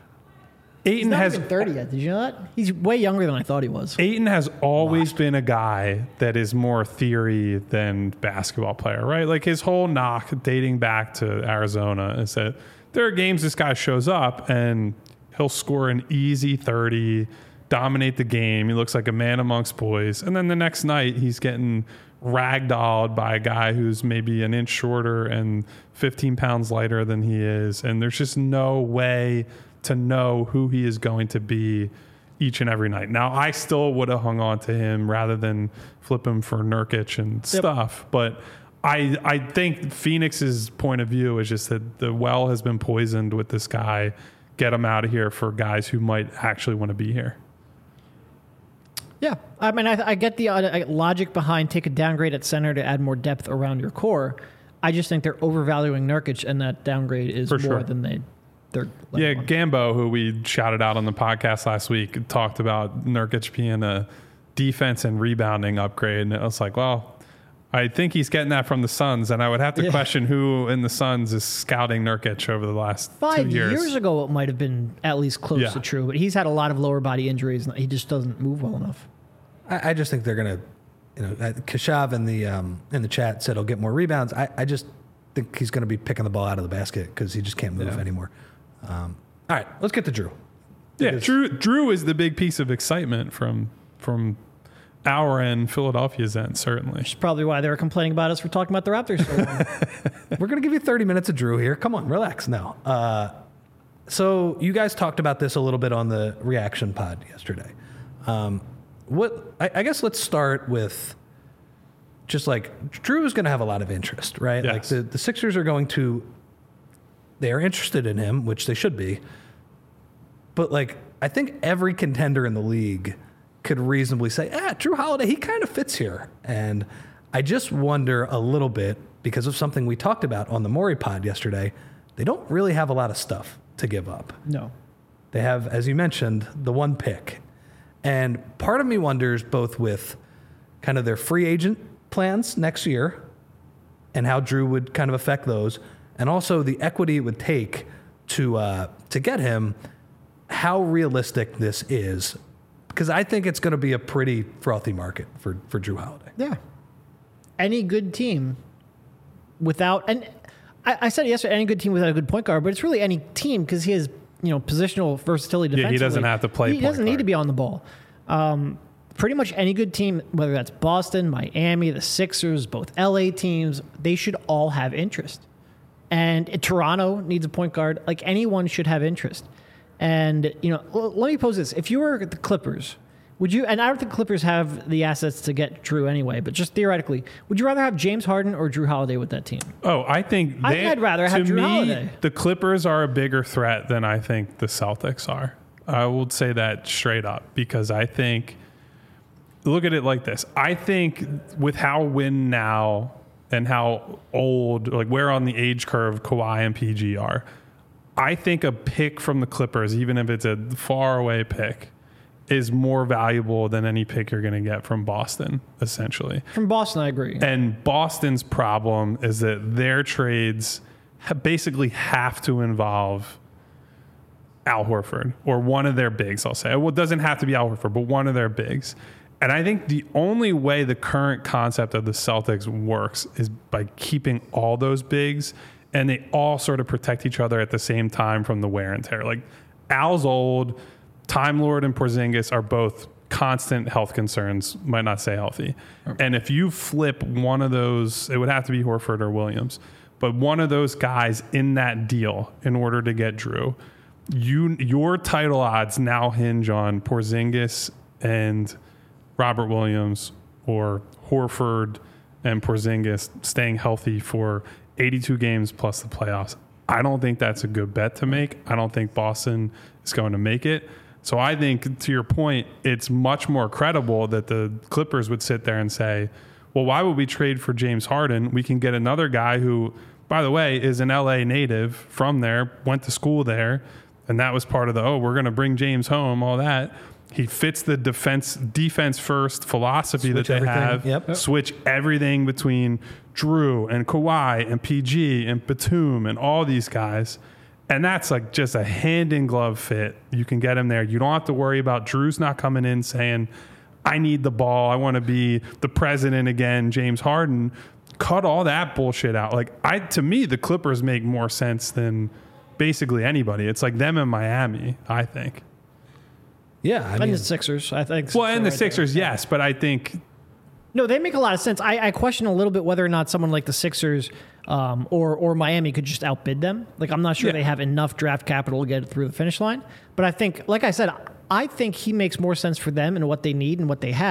He's Ayton not has even thirty yet. Did you know that? He's way younger than I thought he was. Ayton has always been a guy that is more theory than basketball player, right? Like his whole knock dating back to Arizona is that there are games this guy shows up and he'll score an easy thirty, dominate the game. He looks like a man amongst boys. And then the next night he's getting ragdolled by a guy who's maybe an inch shorter and fifteen pounds lighter than he is. And there's just no way to know who he is going to be each and every night. Now, I still would have hung on to him rather than flip him for Nurkic and stuff, but I I think Phoenix's point of view is just that the well has been poisoned with this guy. Get him out of here for guys who might actually want to be here. Yeah, I mean, I, I get the uh, logic behind take a downgrade at center to add more depth around your core. I just think they're overvaluing Nurkic, and that downgrade is For more sure. than they. They're Yeah, on. Gambo, who we shouted out on the podcast last week, talked about Nurkic being a defense and rebounding upgrade, and it was like, well, I think he's getting that from the Suns, and I would have to Yeah. question who in the Suns is scouting Nurkic over the last Five two years. years ago, it might have been at least close Yeah. to true, but he's had a lot of lower body injuries, and he just doesn't move well enough. I, I just think they're going to, you know, uh, Kashav in the um, in the chat said he'll get more rebounds. I, I just think he's going to be picking the ball out of the basket because he just can't move Yeah. anymore. Um, all right, let's get to Drew. Yeah, Because- Drew Drew is the big piece of excitement from from our end, Philadelphia's end, certainly. Which is probably why they were complaining about us for talking about the Raptors so long. We're going to give you thirty minutes of Drew here. Come on, relax. No. Uh, so you guys talked about this a little bit on the reaction pod yesterday. Um, what I, I guess let's start with just like Drew is going to have a lot of interest, right? Yes. Like the, the Sixers are going to, they are interested in him, which they should be. But like, I think every contender in the league could reasonably say, ah, Drew Holiday, he kind of fits here. And I just wonder a little bit because of something we talked about on the Maury pod yesterday. They don't really have a lot of stuff to give up. No. They have, as you mentioned, the one pick. And part of me wonders both with kind of their free agent plans next year and how Drew would kind of affect those, and also the equity it would take to uh, to get him, how realistic this is. Because I think it's going to be a pretty frothy market for, for Drew Holiday. Yeah. Any good team without, and I, I said it yesterday, any good team without a good point guard, but it's really any team because he has, you know, positional versatility Yeah, defensively. he doesn't have to play He point doesn't need guard. to be on the ball. Um, pretty much any good team, whether that's Boston, Miami, the Sixers, both L A teams, they should all have interest. And Toronto needs a point guard. Like anyone should have interest. And, you know, l- let me pose this. If you were the Clippers, would you, and I don't think Clippers have the assets to get Drew anyway, but just theoretically, would you rather have James Harden or Drew Holiday with that team? Oh, I think I they, think I'd rather to have Drew me, Holiday. The Clippers are a bigger threat than I think the Celtics are. I will say that straight up because I think, look at it like this. I think with how win now and how old, like where on the age curve Kawhi and P G are, I think a pick from the Clippers, even if it's a far away pick, is more valuable than any pick you're going to get from Boston, essentially. From Boston, I agree. And Boston's problem is that their trades ha- basically have to involve Al Horford or one of their bigs, I'll say. Well, it doesn't have to be Al Horford, but one of their bigs. And I think the only way the current concept of the Celtics works is by keeping all those bigs, and they all sort of protect each other at the same time from the wear and tear. Like Al's old, Time Lord and Porzingis are both constant health concerns, might not say healthy. And if you flip one of those, it would have to be Horford or Williams, but one of those guys in that deal in order to get Drew, you your title odds now hinge on Porzingis and Robert Williams or Horford and Porzingis staying healthy for eighty-two games plus the playoffs. I don't think that's a good bet to make. I don't think Boston is going to make it. So I think, to your point, it's much more credible that the Clippers would sit there and say, well, why would we trade for James Harden? We can get another guy who, by the way, is an L A native from there, went to school there, and that was part of the, oh, we're going to bring James home, all that. He fits the defense defense first philosophy Switch that they everything. have. Yep. Switch everything between Drew and Kawhi and P G and Batum and all these guys. And that's like just a hand in glove fit. You can get him there. You don't have to worry about Drew's not coming in saying, I need the ball. I want to be the president again, James Harden. Cut all that bullshit out. Like I, to me, the Clippers make more sense than basically anybody. It's like them in Miami, I think. Yeah, I and mean, the Sixers, I think. Well, and the right Sixers, there. yes, but I think No, they make a lot of sense. I, I question a little bit whether or not someone like the Sixers um, or or Miami could just outbid them. Like, I'm not sure Yeah. they have enough draft capital to get it through the finish line. But I think, like I said, I think he makes more sense for them and what they need and what they have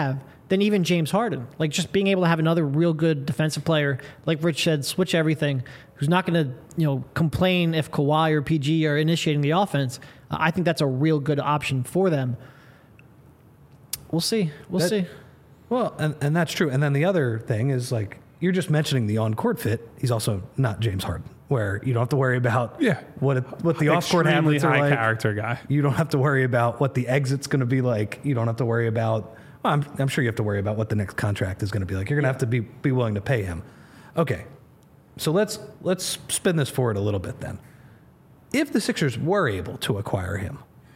than even James Harden. Like just being able to have another real good defensive player, like Rich said, switch everything, who's not going to, you know, complain if Kawhi or P G are initiating the offense. Uh, I think that's a real good option for them. We'll see. We'll That- see. Well, and, and that's true. And then the other thing is like, you're just mentioning the on-court fit. He's also not James Harden, where you don't have to worry about Yeah. what it, what the off-court Extremely habits are high like. character guy. You don't have to worry about what the exit's going to be like. You don't have to worry about. Well, I'm, I'm sure you have to worry about what the next contract is going to be like. You're going to have to be be willing to pay him. Okay, so let's let's spin this forward a little bit then. If the Sixers were able to acquire him,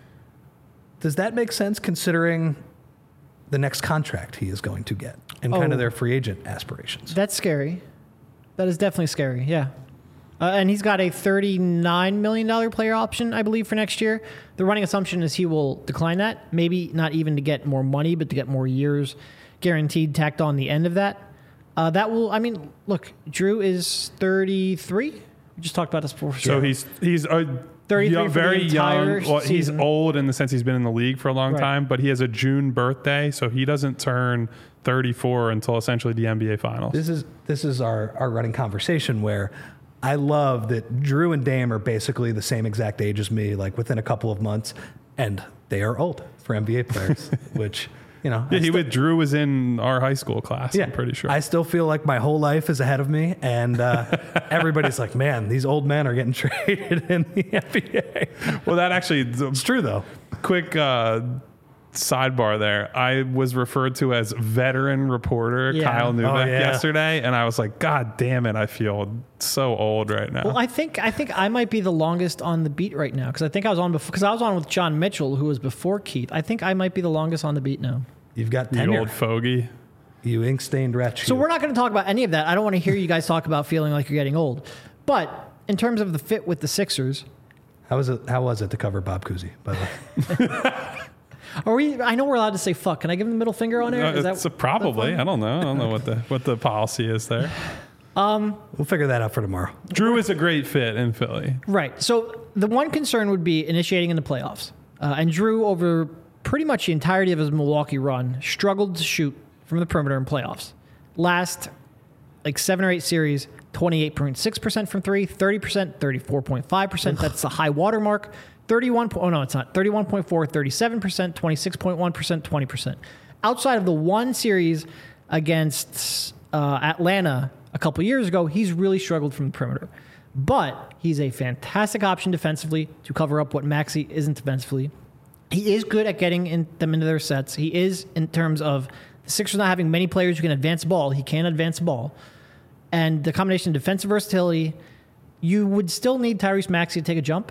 does that make sense considering the next contract he is going to get and kind Oh. of their free agent aspirations? That's scary. That is definitely scary. Yeah. Uh, and he's got a thirty-nine million dollars player option, I believe, for next year. The running assumption is he will decline that. Maybe not even to get more money, but to get more years guaranteed tacked on the end of that. Uh, that will, I mean, look, Drew is thirty-three. We just talked about this before. So he's he's a thirty-three young, for the very entire young. Well, he's season. old in the sense he's been in the league for a long Right. time, but he has a June birthday, so he doesn't turn thirty-four until essentially the N B A Finals. This is this is our, our running conversation where I love that Drew and Dame are basically the same exact age as me, like within a couple of months, and they are old for N B A players, which, you know. Yeah, I he still- with Drew was in our high school class. I'm pretty sure. I still feel like my whole life is ahead of me, and uh, everybody's like, man, these old men are getting traded in the N B A. well, that actually It's true, though. quick uh, sidebar there. I was referred to as veteran reporter Yeah. Kyle Neubeck Oh, yeah. yesterday, and I was like, God damn it, I feel so old right now. Well, I think I think I might be the longest on the beat right now because I think I was on before because I was on with John Mitchell, who was before Keith. I think I might be the longest on the beat now. You've got you tenure. old fogey. You ink-stained wretch. So you. we're not going to talk about any of that. I don't want to hear you guys talk about feeling like you're getting old. But in terms of the fit with the Sixers, How was it? How was it to cover Bob Cousy? By the way, are we? I know we're allowed to say fuck. Can I give him the middle finger on air? Uh, Is it's that a probably. I don't know. I don't know what the what the policy is there. we'll figure that out for tomorrow. Drew is a great fit in Philly. right? So the one concern would be initiating in the playoffs. Uh, and Drew, over pretty much the entirety of his Milwaukee run, struggled to shoot from the perimeter in playoffs. Last like seven or eight series, twenty-eight point six percent from three, thirty percent, thirty-four point five percent. That's the high water mark. thirty-one. Oh, no, it's not. thirty-one point four, thirty-seven percent, twenty-six point one percent, twenty percent. Outside of the one series against uh, Atlanta a couple years ago, he's really struggled from the perimeter. But he's a fantastic option defensively to cover up what Maxey isn't defensively. He is good at getting in, them into their sets. He is, in terms of the Sixers not having many players who can advance the ball, he can advance the ball. And the combination of defensive versatility, you would still need Tyrese Maxey to take a jump.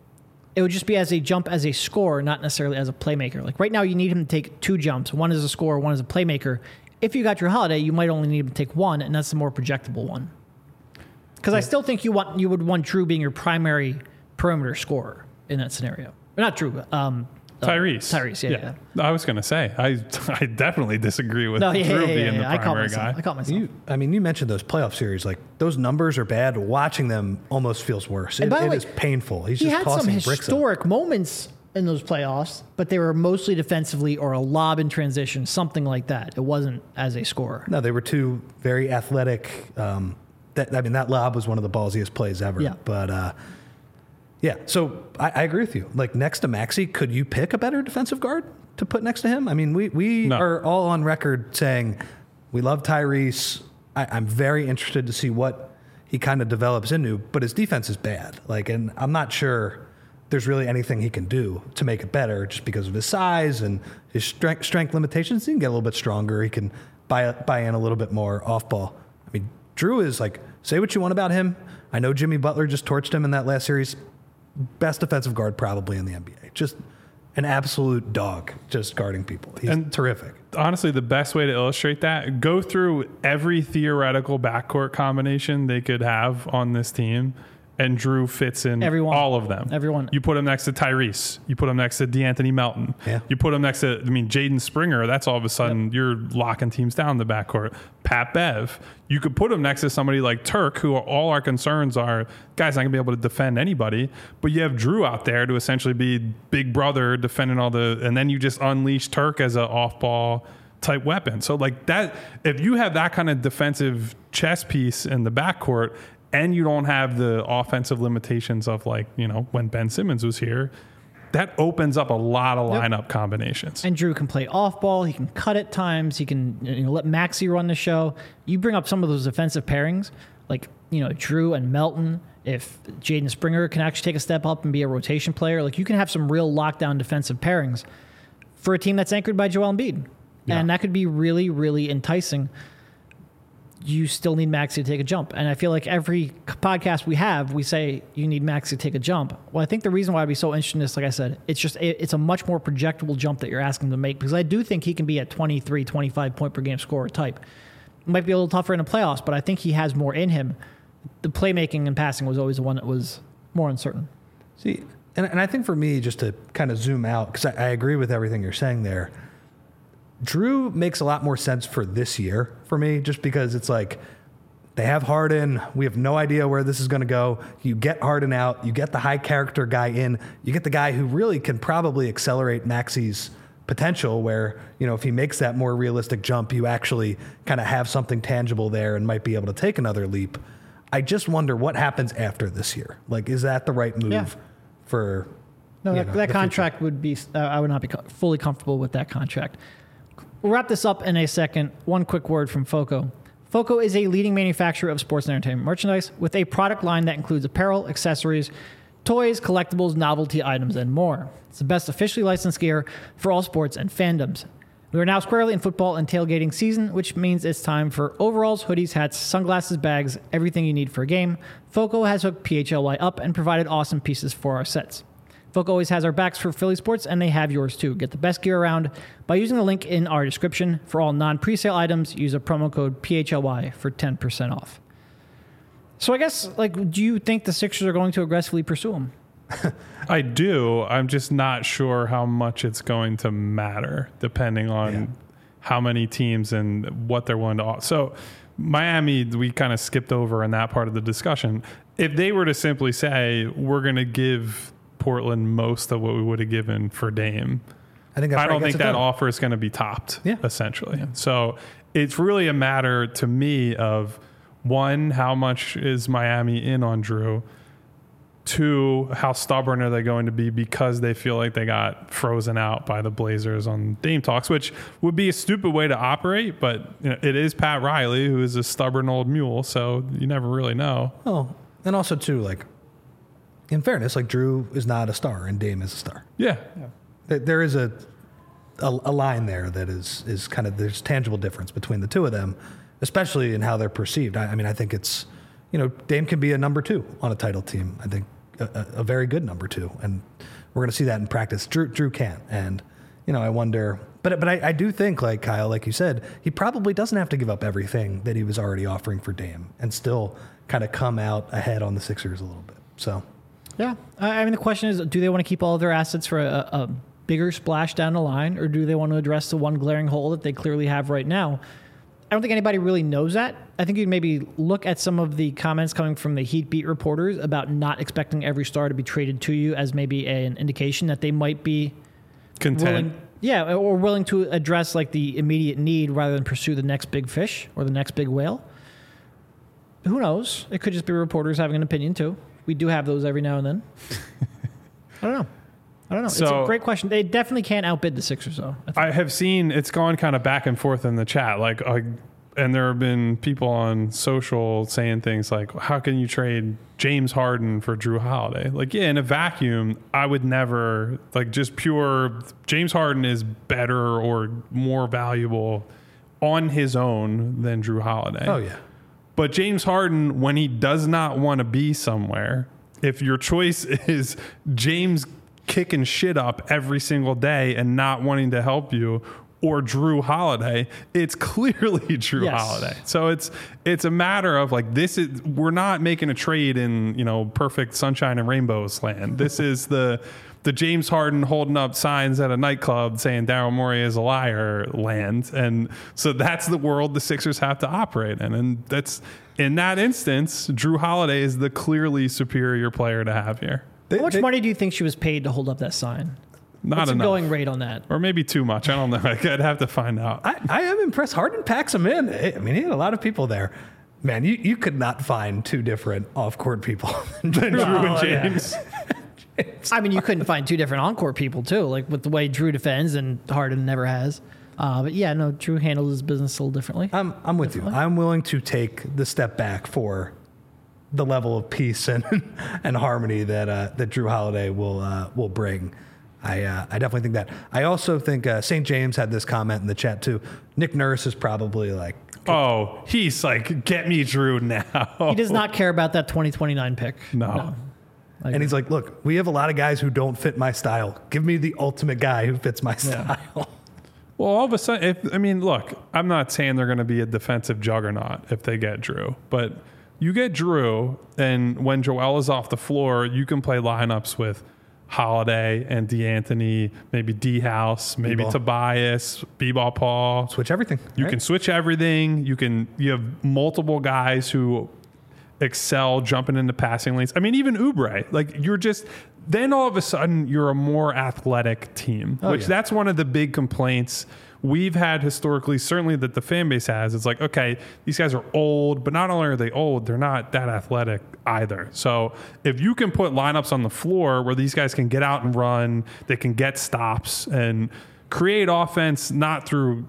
It would just be as a jump as a scorer, not necessarily as a playmaker. Like right now, you need him to take two jumps. One as a scorer, one as a playmaker. If you got your Holiday, you might only need him to take one, and that's the more projectable one. Because I still think you want you would want Drew being your primary perimeter scorer in that scenario. Or not Drew, um, uh, Tyrese. Tyrese, yeah, yeah. I was going to say, I I definitely disagree with No, yeah, Drew yeah, yeah, being yeah. the I caught primary myself. guy. I caught myself. You, I mean, you mentioned those playoff series. Like those numbers are bad. Watching them almost feels worse. It, And by the it way, is painful. He's he just had some tossing bricks. up. historic moments in those playoffs, but they were mostly defensively or a lob in transition, something like that. It wasn't as a scorer. No, they were two very athletic. Um, that I mean, that lob was one of the ballsiest plays ever. Yeah. But uh, yeah, so I, I agree with you. Like next to Maxey, could you pick a better defensive guard to put next to him? I mean, we we No. are all on record saying we love Tyrese. I, I'm very interested to see what he kind of develops into, but his defense is bad. Like, and I'm not sure there's really anything he can do to make it better just because of his size and his strength, strength limitations. He can get a little bit stronger. He can buy, buy in a little bit more off ball. I mean, Drew is like, say what you want about him. I know Jimmy Butler just torched him in that last series. Best defensive guard probably in the N B A. Just an absolute dog just guarding people. He's And- terrific. Honestly, the best way to illustrate that, go through every theoretical backcourt combination they could have on this team, and Drew fits in Everyone. all of them. Everyone. You put him next to Tyrese. You put him next to DeAnthony Melton. Yeah. You put him next to, I mean, Jaden Springer. That's all of a sudden you're locking teams down in the backcourt. Pat Bev. You could put him next to somebody like Turk, who all our concerns are, guys not going to be able to defend anybody. But you have Drew out there to essentially be big brother defending all the, and then you just unleash Turk as an off-ball type weapon. So like that, if you have that kind of defensive chess piece in the backcourt and you don't have the offensive limitations of like, you know, when Ben Simmons was here, that opens up a lot of Yep. lineup combinations. And Drew can play off ball. He can cut at times. He can you know, let Maxey run the show. You bring up some of those defensive pairings, like you know Drew and Melton. If Jaden Springer can actually take a step up and be a rotation player, like you can have some real lockdown defensive pairings for a team that's anchored by Joel Embiid, Yeah. and that could be really, really enticing. You still need Maxey to take a jump. And I feel like every podcast we have, we say you need Maxey to take a jump. Well, I think the reason why I'd be so interested in this, like I said, it's just it, it's a much more projectable jump that you're asking him to make, because I do think he can be a twenty-three, twenty-five point per game scorer type. It might be a little tougher in the playoffs, but I think he has more in him. The playmaking and passing was always the one that was more uncertain. See, and, and I think for me, just to kind of zoom out, because I, I agree with everything you're saying there, Drew makes a lot more sense for this year for me, just because it's like they have Harden. We have no idea where this is going to go. You get Harden out. You get the high character guy in. You get the guy who really can probably accelerate Maxey's potential, where, you know, if he makes that more realistic jump, you actually kind of have something tangible there and might be able to take another leap. I just wonder what happens after this year. Like, is that the right move Yeah. for No, you that, know, that the contract future? would be, uh, I would not be co- fully comfortable with that contract. We'll wrap this up in a second. One quick word from FOCO. FOCO is a leading manufacturer of sports and entertainment merchandise with a product line that includes apparel, accessories, toys, collectibles, novelty items, and more. It's the best officially licensed gear for all sports and fandoms. We are now squarely in football and tailgating season, which means it's time for overalls, hoodies, hats, sunglasses, bags, everything you need for a game. FOCO has hooked P H L Y up and provided awesome pieces for our sets. FOCO always has our backs for Philly sports, and they have yours too. Get the best gear around by using the link in our description. For all non-presale items, use a promo code P H L Y for ten percent off. So I guess, like, do you think the Sixers are going to aggressively pursue him? I do. I'm just not sure how much it's going to matter depending on Yeah. how many teams and what they're willing to offer. So Miami, we kind of skipped over in that part of the discussion. If they were to simply say, we're going to give Portland most of what we would have given for Dame, I think that I don't probably think gets it that done. offer is going to be topped, Yeah. essentially. So it's really a matter to me of, one, how much is Miami in on Drew? Two, how stubborn are they going to be because they feel like they got frozen out by the Blazers on Dame talks, which would be a stupid way to operate, but you know, it is Pat Riley, who is a stubborn old mule, so you never really know. Oh, and also too, like, in fairness, like Drew is not a star and Dame is a star. Yeah. There- There is a, a a line there that is is kind of, there's tangible difference between the two of them, especially in how they're perceived. I, I mean, I think it's, you know, Dame can be a number two on a title team. I think a, a, a very good number two, and we're going to see that in practice. Drew Drew can't, and you know, I wonder. But but I, I do think, like Kyle, like you said, he probably doesn't have to give up everything that he was already offering for Dame and still kind of come out ahead on the Sixers a little bit. So. Yeah. I I mean, the question is, do they want to keep all of their assets for a, a bigger splash down the line, or do they want to address the one glaring hole that they clearly have right now? I don't think anybody really knows that. I think you'd maybe look at some of the comments coming from the Heat beat reporters about not expecting every star to be traded to you as maybe a, an indication that they might be Content. willing, yeah, or willing to address like the immediate need rather than pursue the next big fish or the next big whale. Who knows? It could just be reporters having an opinion too. We do have those every now and then. I don't know. I don't know. it's So- a great question. They definitely can't outbid the Sixers, though. I think. I have seen it's gone kind of back and forth in the chat, like, uh, and there have been people on social saying things like, "How can you trade James Harden for Drew Holiday?" Like, yeah, in a vacuum, I would never, like, just pure James Harden is better or more valuable on his own than Drew Holiday. Oh yeah. But James Harden, when he does not want to be somewhere, if your choice is James kicking shit up every single day and not wanting to help you, or Drew Holiday, it's clearly Drew Yes. Holiday. So it's it's a matter of like, this is, we're not making a trade in, you know, perfect sunshine and rainbows land. This is the the James Harden holding up signs at a nightclub saying Daryl Morey is a liar land. And so that's the world the Sixers have to operate in. And that's, in that instance, Drew Holiday is the clearly superior player to have here. They- How much they- money do you think she was paid to hold up that sign? Not What's enough. the going rate on that? Or maybe too much. I don't know. I'd have to find out. I, I am impressed. Harden packs him in. I mean, he had a lot of people there. Man, you, you could not find two different off-court people than Drew and Oh, yeah. James. I mean, you couldn't find two different on-court people too, like with the way Drew defends and Harden never has. Uh, but yeah, no, Drew handled his business a little differently. I'm, I'm with you. I'm willing to take the step back for the level of peace and and harmony that uh, that Drew Holiday will uh, will bring. I uh, I definitely think that. I also think uh, Saint James had this comment in the chat too. Nick Nurse is probably like, Oh, he's like, get me Drew now. He does not care about that twenty twenty-nine pick. No. I and he's like, look, we have a lot of guys who don't fit my style. Give me the ultimate guy who fits my style. Well, all of a sudden, if, I mean, look, I'm not saying they're going to be a defensive juggernaut if they get Drew, but you get Drew, and when Joel is off the floor, you can play lineups with Holiday and DeAnthony, maybe D House, maybe B-ball. Tobias, B-ball Paul. Switch everything. You right? can switch everything. You can. You have multiple guys who excel jumping into passing lanes. I mean, even Oubre. Like you're just. Then all of a sudden, you're a more athletic team, Oh, which yeah. that's one of the big complaints we've had historically, certainly that the fan base has. It's like, okay, these guys are old, but not only are they old, they're not that athletic either. So if you can put lineups on the floor where these guys can get out and run, they can get stops and create offense, not through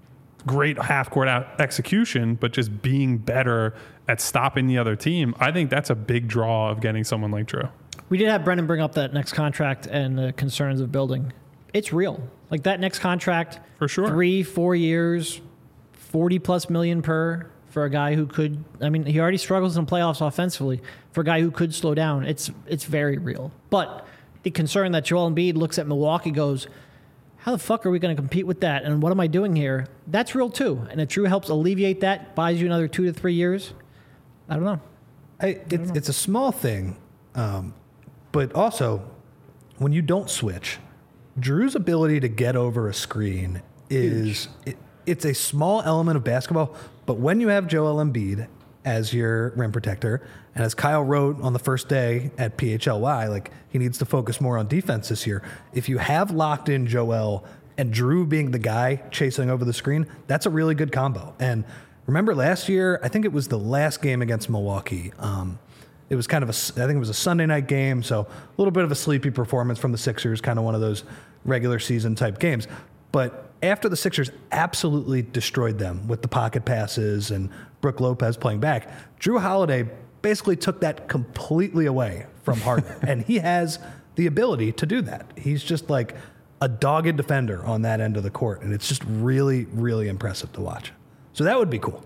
great half-court out execution, but just being better at stopping the other team, I think that's a big draw of getting someone like Drew. We did have Brendan bring up that next contract and the concerns of building. It's real. Like that next contract, For sure. three, four years, forty plus million per for a guy who could. I mean, he already struggles in playoffs offensively. For a guy who could slow down, it's it's very real. But the concern that Joel Embiid looks at Milwaukee, goes, how the fuck are we going to compete with that? And what am I doing here? That's real too. And if Drew helps alleviate that, buys you another two to three years, I don't know. I, it, it's a small thing, um, but also when you don't switch, Drew's ability to get over a screen is it, it's a small element of basketball. But when you have Joel Embiid as your rim protector, and as Kyle wrote on the first day at P H L Y, like he needs to focus more on defense this year. If you have locked in Joel and Drew being the guy chasing over the screen, that's a really good combo. And remember last year, I think it was the last game against Milwaukee. Um, it was kind of a, I think it was a Sunday night game, so a little bit of a sleepy performance from the Sixers, kind of one of those regular season type games. But after the Sixers absolutely destroyed them with the pocket passes and Brook Lopez playing back, Drew Holiday basically took that completely away from Harden. And he has the ability to do that. He's just like a dogged defender on that end of the court. And it's just really, really impressive to watch. So that would be cool.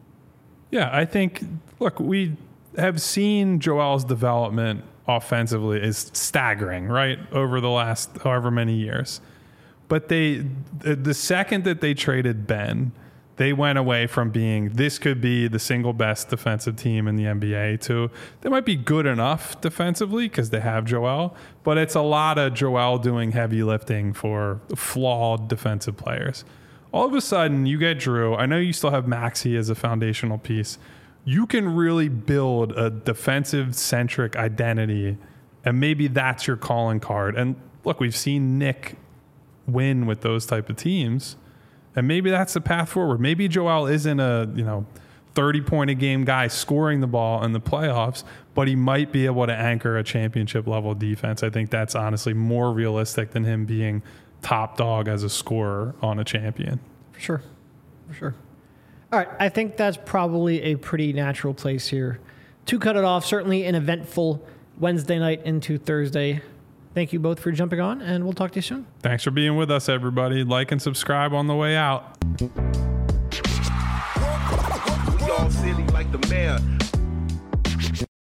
Yeah, I think, look, we have seen Joel's development offensively is staggering, right, over the last however many years. But they, the second that they traded Ben, they went away from being this could be the single best defensive team in the N B A to they might be good enough defensively because they have Joel, but it's a lot of Joel doing heavy lifting for flawed defensive players. All of a sudden, you get Drew. I know you still have Maxey as a foundational piece. You can really build a defensive-centric identity, and maybe that's your calling card. And look, we've seen Nick win with those type of teams, and maybe that's the path forward. Maybe Joel isn't a you know thirty-point a game guy scoring the ball in the playoffs, but he might be able to anchor a championship-level defense. I think that's honestly more realistic than him being top dog as a scorer on a champion. For sure. For sure. All right. I think that's probably a pretty natural place here to cut it off. Certainly an eventful Wednesday night into Thursday. Thank you both for jumping on, and we'll talk to you soon. Thanks for being with us, everybody. Like and subscribe on the way out. Y'all sit